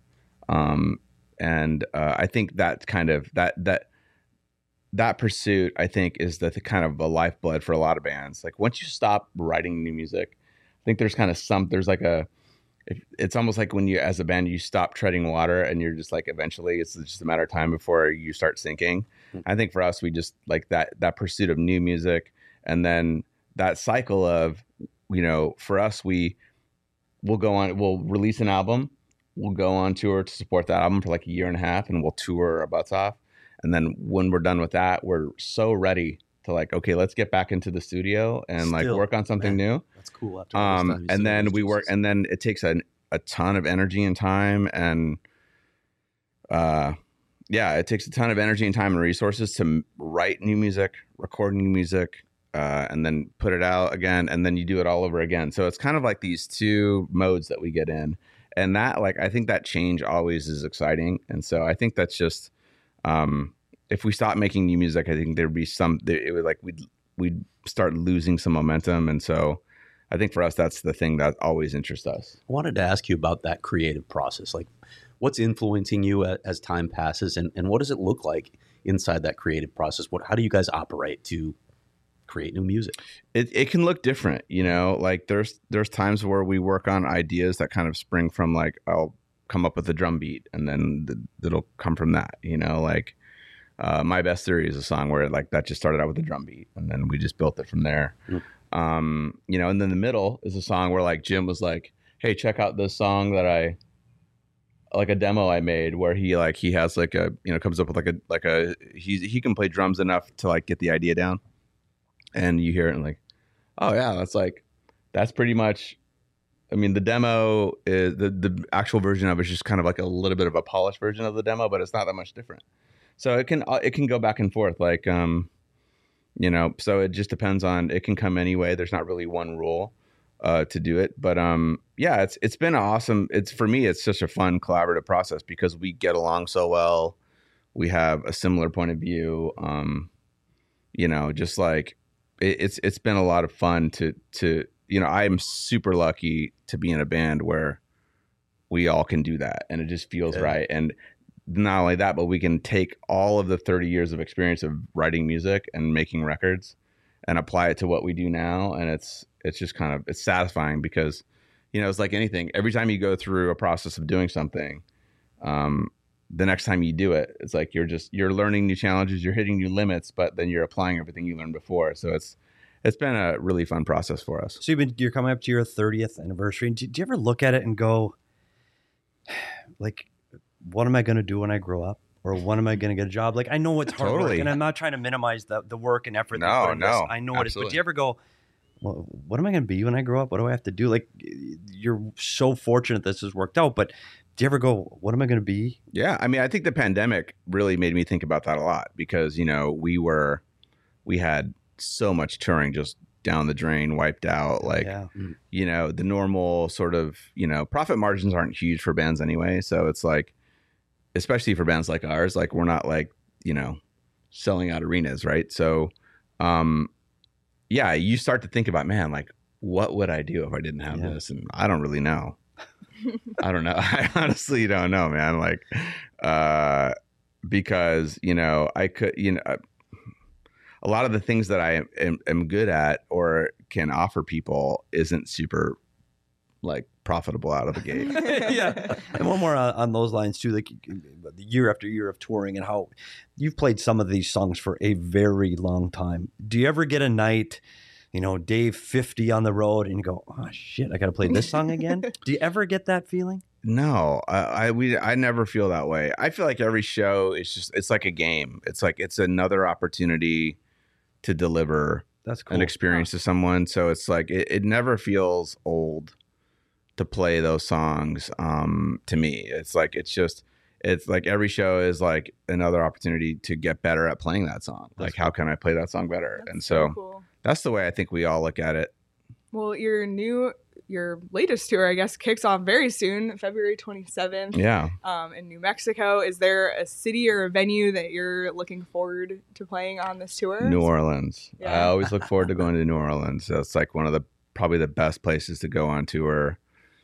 I think that kind of that pursuit, I think, is the kind of a lifeblood for a lot of bands. Like once you stop writing new music, I think there's kind of there's like it's almost like when you, as a band, you stop treading water and you're just like, eventually it's just a matter of time before you start sinking. I think for us, we just like that pursuit of new music. And then that cycle of, for us, we'll release an album, we'll go on tour to support that album for like a year and a half, and we'll tour our butts off. And then when we're done with that, we're so ready to like, okay, let's get back into the studio and like work on something new. That's cool. After all this time, and then we work, and then it takes a ton of energy and time, and it takes a ton of energy and time and resources to write new music, record new music, and then put it out again, and then you do it all over again. So it's kind of like these two modes that we get in, and that I think that change always is exciting, and so I think that's just if we stop making new music, I think there'd be we'd start losing some momentum, and so I think for us that's the thing that always interests us. I wanted to ask you about that creative process. Like, what's influencing you as time passes, and what does it look like inside that creative process? How do you guys operate to create new music? It can look different, like there's times where we work on ideas that kind of spring from like, I'll come up with a drum beat and then it'll come from that, like My Best Theory is a song where like that just started out with a drum beat and then we just built it from there. And then the middle is a song where like Jim was like, hey, check out this song that like a demo I made where he has like a, comes up with he can play drums enough to like get the idea down, and you hear it and like, oh yeah, that's pretty much, I mean, the demo is the actual version of it is just kind of like a little bit of a polished version of the demo, but it's not that much different. So it can go back and forth, like, so it just depends on, it can come anyway. There's not really one rule to do it, but it's been awesome. For me, it's such a fun collaborative process because we get along so well. We have a similar point of view. Just like it's been a lot of fun to I am super lucky to be in a band where we all can do that and it just feels right. And not only that, but we can take all of the 30 years of experience of writing music and making records and apply it to what we do now. And it's just kind of, it's satisfying because, it's like anything. Every time you go through a process of doing something, the next time you do it, it's like you're learning new challenges, you're hitting new limits, but then you're applying everything you learned before. So it's been a really fun process for us. So you're coming up to your 30th anniversary. Do you ever look at it and go, like, what am I going to do when I grow up? Or when am I going to get a job? Like, I know it's hard work, and I'm not trying to minimize the work and effort. I know absolutely. it is. But do you ever go, well, what am I going to be when I grow up? What do I have to do? Like, you're so fortunate this has worked out, but do you ever go, what am I going to be? Yeah. I mean, I think the pandemic really made me think about that a lot because, we had so much touring just down the drain, wiped out. Like, you know, the normal sort of, you know, profit margins aren't huge for bands anyway. So it's like, especially for bands like ours, like we're not like, you know, selling out arenas, right? So, yeah, you start to think about, man, like, what would I do if I didn't have this? And I don't really know. I don't know. I honestly don't know, man. Like, because, you know, I could, you know, a lot of the things that I am good at or can offer people isn't super like profitable out of the gate. And one more on those lines too, like year after year of touring and how you've played some of these songs for a very long time. Do you ever get a night, you know, day 50 on the road and you go, oh shit, I got to play this song again? Do you ever get that feeling? No, I never feel that way. I feel like every show is just, it's like a game. It's like, it's another opportunity to deliver an experience to someone. So it's like, it never feels old to play those songs. To me, it's like, it's like every show is like another opportunity to get better at playing that song. That's like, how can I play that song better? And so cool. That's the way I think we all look at it. Well, your latest tour, I guess, kicks off very soon, February 27th. Yeah. In New Mexico. Is there a city or a venue that you're looking forward to playing on this tour? New Orleans. Yeah. I always look forward to going to New Orleans. That's like one of probably the best places to go on tour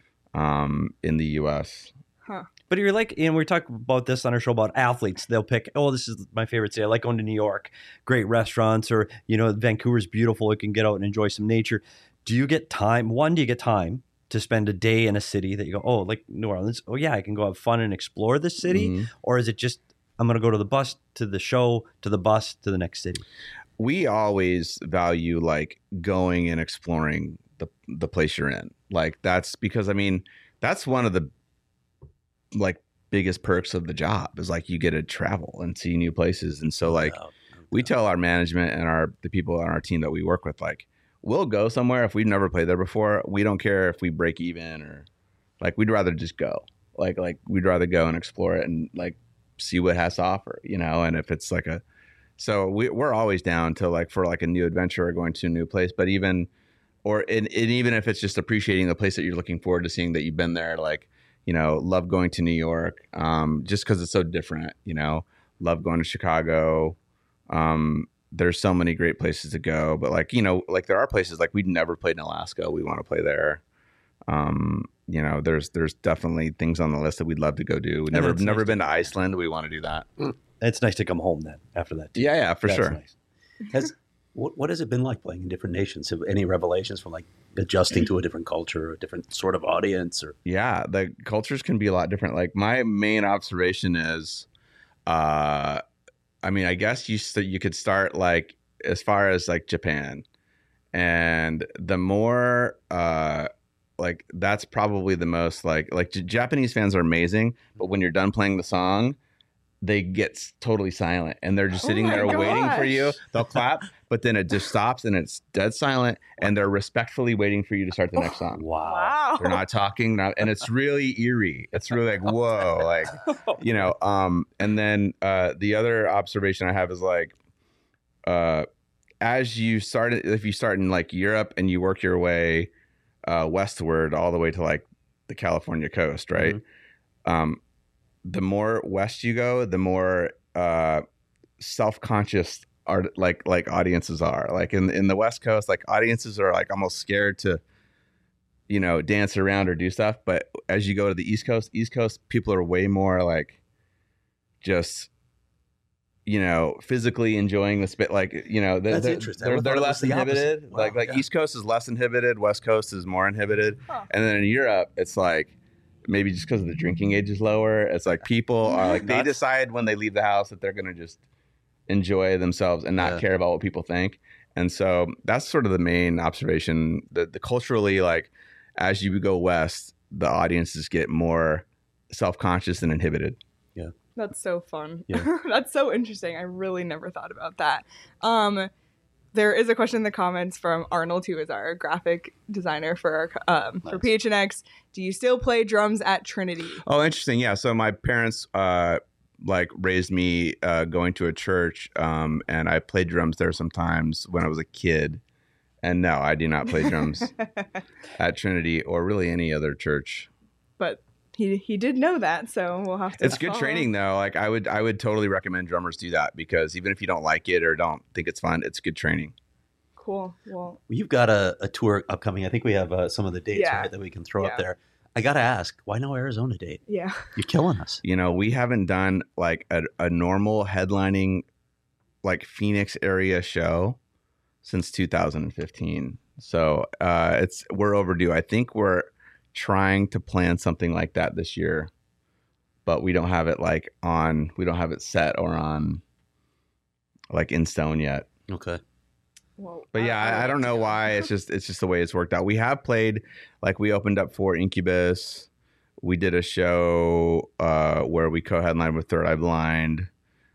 in the U.S. Huh. But you're like, and we talk about this on our show about athletes. They'll pick, oh, this is my favorite city. I like going to New York, great restaurants, or, you know, Vancouver's beautiful. You can get out and enjoy some nature. Do you get time? One, do you get time to spend a day in a city that you go, oh, like New Orleans? Oh, yeah, I can go have fun and explore this city. Mm-hmm. Or is it just, I'm going to go to the bus, to the show, to the bus, to the next city? We always value like going and exploring the place you're in. Like that's because, I mean, that's one of the like biggest perks of the job is like you get to travel and see new places. And so like we tell our management and the people on our team that we work with, like, we'll go somewhere if we've never played there before. We don't care if we break even or like, we'd rather just go. Like we'd rather go and explore it and like see what it has to offer, you know? And if it's like so we're always down to like, for like a new adventure or going to a new place, but even if it's just appreciating the place that you're looking forward to seeing that you've been there, like, you know, love going to New York, just because it's so different, you know, love going to Chicago. There's so many great places to go, but like, you know, like there are places like we'd never played in Alaska. We want to play there. You know, there's definitely things on the list that we'd love to go do. We've never been to Iceland. We want to do that. It's nice to come home then after that. Yeah, for sure. Nice. What has it been like playing in different nations? Have any revelations from like adjusting to a different culture or a different sort of audience? Or yeah, the cultures can be a lot different. Like my main observation is, I mean, I guess you could start like as far as like Japan, and the more like that's probably the most like Japanese fans are amazing, but when you're done playing the song, they get totally silent and they're just sitting there waiting for you. They'll clap, but then it just stops and it's dead silent and they're respectfully waiting for you to start the next song. Wow. They're not talking. And it's really eerie. It's really like, whoa, like, you know, and then the other observation I have is like, if you start in like Europe and you work your way westward all the way to like the California coast, right? Mm-hmm. The more west you go, the more self-conscious like audiences are. Like in the West Coast, like audiences are like almost scared to, you know, dance around or do stuff. But as you go to the East Coast, people are way more like just, you know, physically enjoying the spit. Like, you know, that's interesting. They're less inhibited. Wow, like East Coast is less inhibited. West Coast is more inhibited. Huh. And then in Europe, it's like, maybe just because the drinking age is lower, it's like people are like, they decide when they leave the house that they're going to just enjoy themselves and not care about what people think. And so that's sort of the main observation, that the culturally, like as you go west, the audiences get more self-conscious and inhibited. Yeah. That's so fun. Yeah. That's so interesting. I really never thought about that. There is a question in the comments from Arnold, who is our graphic designer for our for PHNX. Do you still play drums at Trinity? Oh, interesting. Yeah. So my parents like raised me going to a church, and I played drums there sometimes when I was a kid. And no, I do not play drums at Trinity or really any other church. But he did know that, so we'll have to. It's good training though. Like I would totally recommend drummers do that, because even if you don't like it or don't think it's fun, it's good training. Cool. Well, You've got a tour upcoming. I think we have some of the dates Yeah. right, that we can throw Yeah. up there. I got to ask, why no Arizona date? yeah. You're killing us. You know, we haven't done like a normal headlining like Phoenix area show since 2015. So we're overdue. I think we're trying to plan something like that this year, but we don't have it we don't have it set or on like in stone yet. Okay. Well, But yeah, I don't know why. It's just the way it's worked out. We have played, like we opened up for Incubus. We did a show where we co-headlined with Third Eye Blind,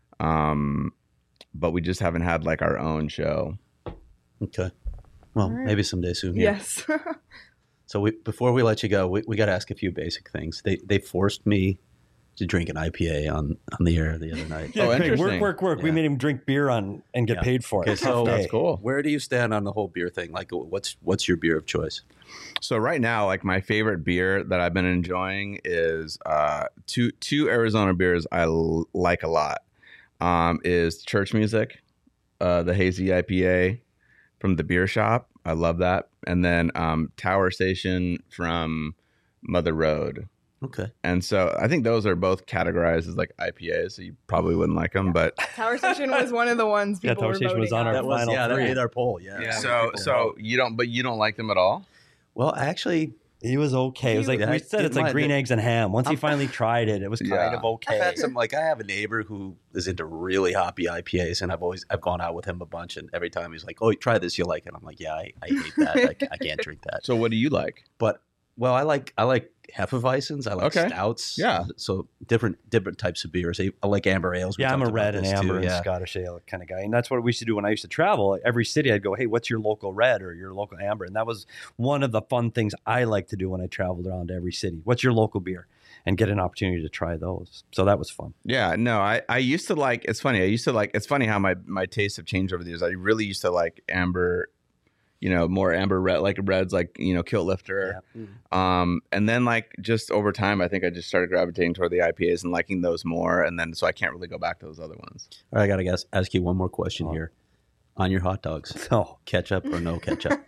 but we just haven't had like our own show. Okay. Well, All right. maybe someday soon. Yeah. Yes. So before we let you go, we got to ask a few basic things. They forced me to drink an IPA on the air the other night. Oh, Craig, interesting. work. We Yeah. made him drink beer and get Yeah. paid for it. Okay, so That's cool. Where do you stand on the whole beer thing? Like, what's your beer of choice? So right now, like my favorite beer that I've been enjoying is two Arizona beers I like a lot. Is Church Music, the hazy IPA from the beer shop. I love that. And then Tower Station from Mother Road. Okay. And so I think those are both categorized as like IPAs. So you probably wouldn't like them, but Tower Station was one of the ones Yeah, people Tower were Station was voting on our on. That was final that three. made our poll. Yeah. yeah. People So you don't like them at all. Well, actually, He was okay. It was like Yeah, we I said, it's didn't like mind green it. eggs and ham. Once he finally tried it, it was kind Yeah. of okay. I've had some, like, I have a neighbor who is into really hoppy IPAs, and I've gone out with him a bunch, and every time he's like, "Oh, try this, you'll like it." I'm like, "Yeah, I hate that. I can't drink that." So what do you like? But well, I like Hefeweizens. I like Okay. stouts. Yeah. So different types of beers. I like amber ales. We Yeah, I'm a talked about red and this too, amber and yeah. Scottish ale kind of guy. And that's what we used to do when I used to travel. Every city I'd go, hey, what's your local red or your local amber? And that was one of the fun things I like to do when I traveled around to every city. What's your local beer? And get an opportunity to try those. So that was fun. Yeah, no, I used to like, it's funny. It's funny how my tastes have changed over the years. I really used to like amber, more amber red, like reds, like, Kilt Lifter. Yeah. And then like just over time, I think I just started gravitating toward the IPAs and liking those more. And then, so I can't really go back to those other ones. All right, I gotta ask you one more question Oh. here. On your hot dogs, So ketchup or no ketchup?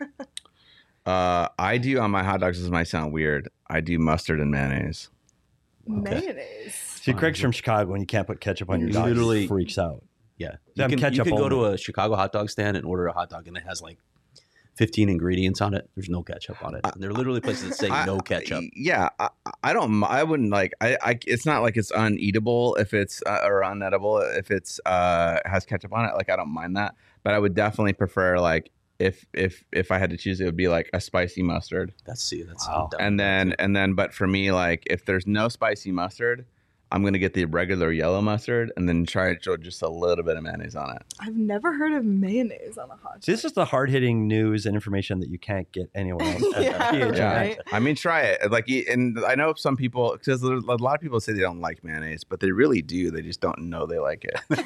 I do on my hot dogs, this might sound weird. I do mustard and mayonnaise. Mayonnaise. see, Craig's from Chicago and you can't put ketchup on your dog. Literally- He freaks out. Yeah, Them you ketchup can go to only. a Chicago hot dog stand and order a hot dog, and it has like 15 ingredients on it. There's no ketchup on it. And there are literally places that say no ketchup. Yeah, I wouldn't like. It's not like it's uneatable if it's or unedible if it's has ketchup on it. Like I don't mind that, but I would definitely prefer like if I had to choose, it would be like a spicy mustard. That's Wow. And then, but for me, like if there's no spicy mustard, I'm gonna get the regular yellow mustard and then try to just a little bit of mayonnaise on it. I've never heard of mayonnaise on a hot dog. See, this is the hard-hitting news and information that you can't get anywhere else. at Yeah, PHNX. Yeah, right. I mean, try it. Like, and I know some people, because a lot of people say they don't like mayonnaise, but they really do. They just don't know they like it. It's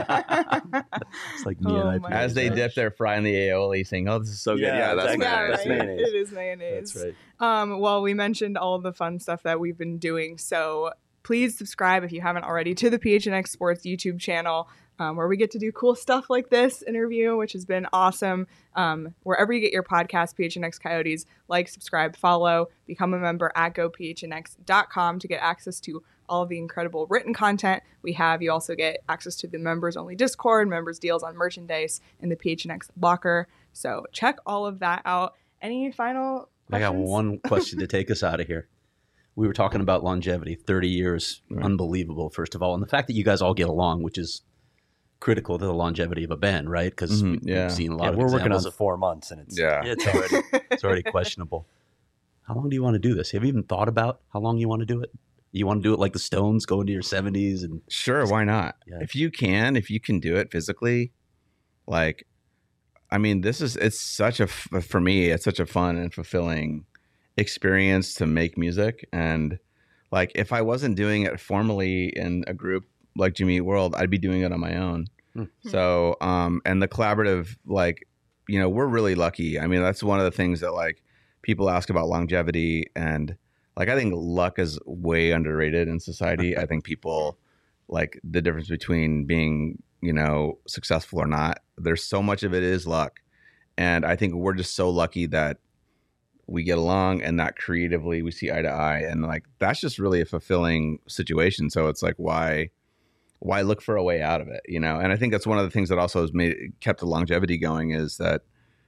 like me Oh and my IPAs. As they gosh. dip their fry in the aioli, saying, "Oh, this is so good." Yeah, Yeah, that's exactly. Yeah, mayonnaise. That's right. mayonnaise. It is mayonnaise. That's right. Well, we mentioned all of the fun stuff that we've been doing. So please subscribe if you haven't already to the PHNX Sports YouTube channel, where we get to do cool stuff like this interview, which has been awesome. Wherever you get your podcast, PHNX Coyotes, like, subscribe, follow, become a member at gophnx.com to get access to all of the incredible written content we have. You also get access to the members only Discord, members deals on merchandise, and the PHNX locker. So check all of that out. Any final I got questions? one question to take us out of here. We were talking about longevity, 30 years, Right. unbelievable, first of all. And the fact that you guys all get along, which is critical to the longevity of a band, right? Because Mhm, yeah. we've seen a lot Yeah, of we're working on examples of 4 months, and it's Yeah. Yeah, it's already questionable. How long do you want to do this? Have you even thought about how long you want to do it? You want to do it like the Stones, go into your 70s and Sure, why not? Yeah. If you can do it physically, like, I mean, it's such for me, it's such a fun and fulfilling experience to make music. And like, if I wasn't doing it formally in a group like Jimmy Eat World, I'd be doing it on my own. Hmm. So, and the collaborative, like, we're really lucky. I mean, that's one of the things that like people ask about longevity, and like I think luck is way underrated in society. I think people like the difference between being, successful or not. There's so much of it is luck. And I think we're just so lucky that we get along and that creatively we see eye to eye. And like, that's just really a fulfilling situation. So it's like, why look for a way out of it, And I think that's one of the things that also has kept the longevity going is that,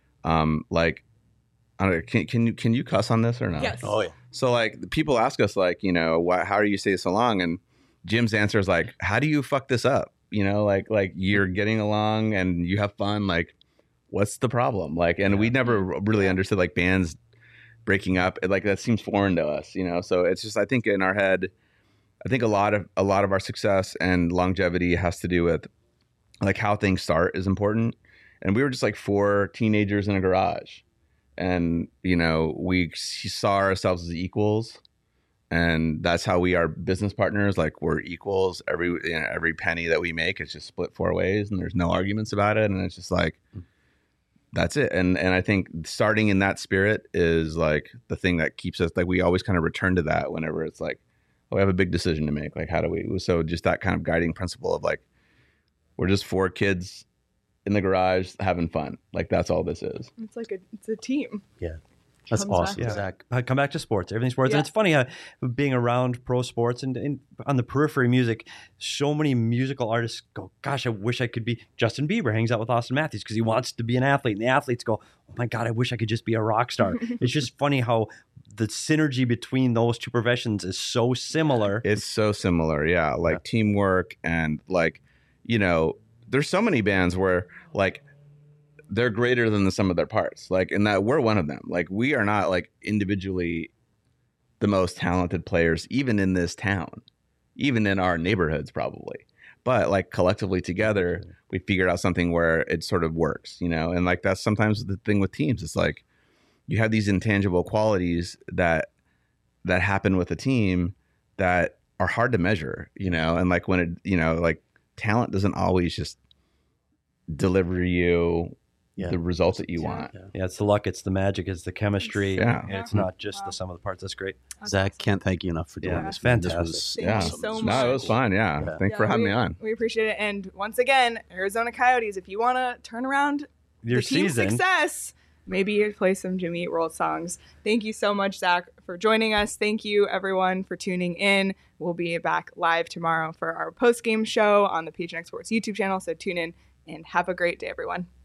like, I don't know, can you cuss on this or not? Yes. Oh yeah. So like people ask us like, how do you stay so long? And Jim's answer is like, how do you fuck this up? Like you're getting along and you have fun. Like, what's the problem? Like, and we never really understood like bands breaking up. Like that seems foreign to us, So it's just, I think in our head, I think a lot of our success and longevity has to do with like how things start is important. And we were just like 4 teenagers in a garage, and we saw ourselves as equals, and that's how we are business partners. Like we're equals. Every penny that we make is just split 4 ways, and there's no arguments about it. And it's just like, that's it. And I think starting in that spirit is like the thing that keeps us, like we always kind of return to that whenever it's like, oh, we have a big decision to make. Like, how do we? So just that kind of guiding principle of like, we're just 4 kids in the garage having fun. Like that's all this is. It's like it's a team. Yeah. That's Comes awesome, back. Yeah. Zach. I come back to sports, everything sports. Yeah. And it's funny how being around pro sports and on the periphery music, so many musical artists go, gosh, I wish I could be. Justin Bieber hangs out with Austin Matthews because he wants to be an athlete. And the athletes go, oh my God, I wish I could just be a rock star. It's just funny how the synergy between those 2 professions is so similar. It's so similar. Yeah. Like teamwork and like, there's so many bands where like they're greater than the sum of their parts. Like, and that we're one of them. Like we are not like individually the most talented players, even in this town, even in our neighborhoods probably. But like collectively together, we figured out something where it sort of works, and like that's sometimes the thing with teams. It's like you have these intangible qualities that happen with a team that are hard to measure, and like when it, like talent doesn't always just deliver you the results that you want. Yeah, it's the luck, it's the magic, it's the chemistry. Yeah. And it's not just the sum of the parts. That's great. Zach, can't thank you enough for doing Yeah, this. fantastic. This was Thank you so No, much. it was fun. Yeah. Thanks for having me on. We appreciate it. And once again, Arizona Coyotes, if you want to turn around Your the team's season. success, maybe you play some Jimmy Eat World songs. Thank you so much, Zach, for joining us. Thank you, everyone, for tuning in. We'll be back live tomorrow for our post-game show on the PHNX Sports YouTube channel. So tune in and have a great day, everyone.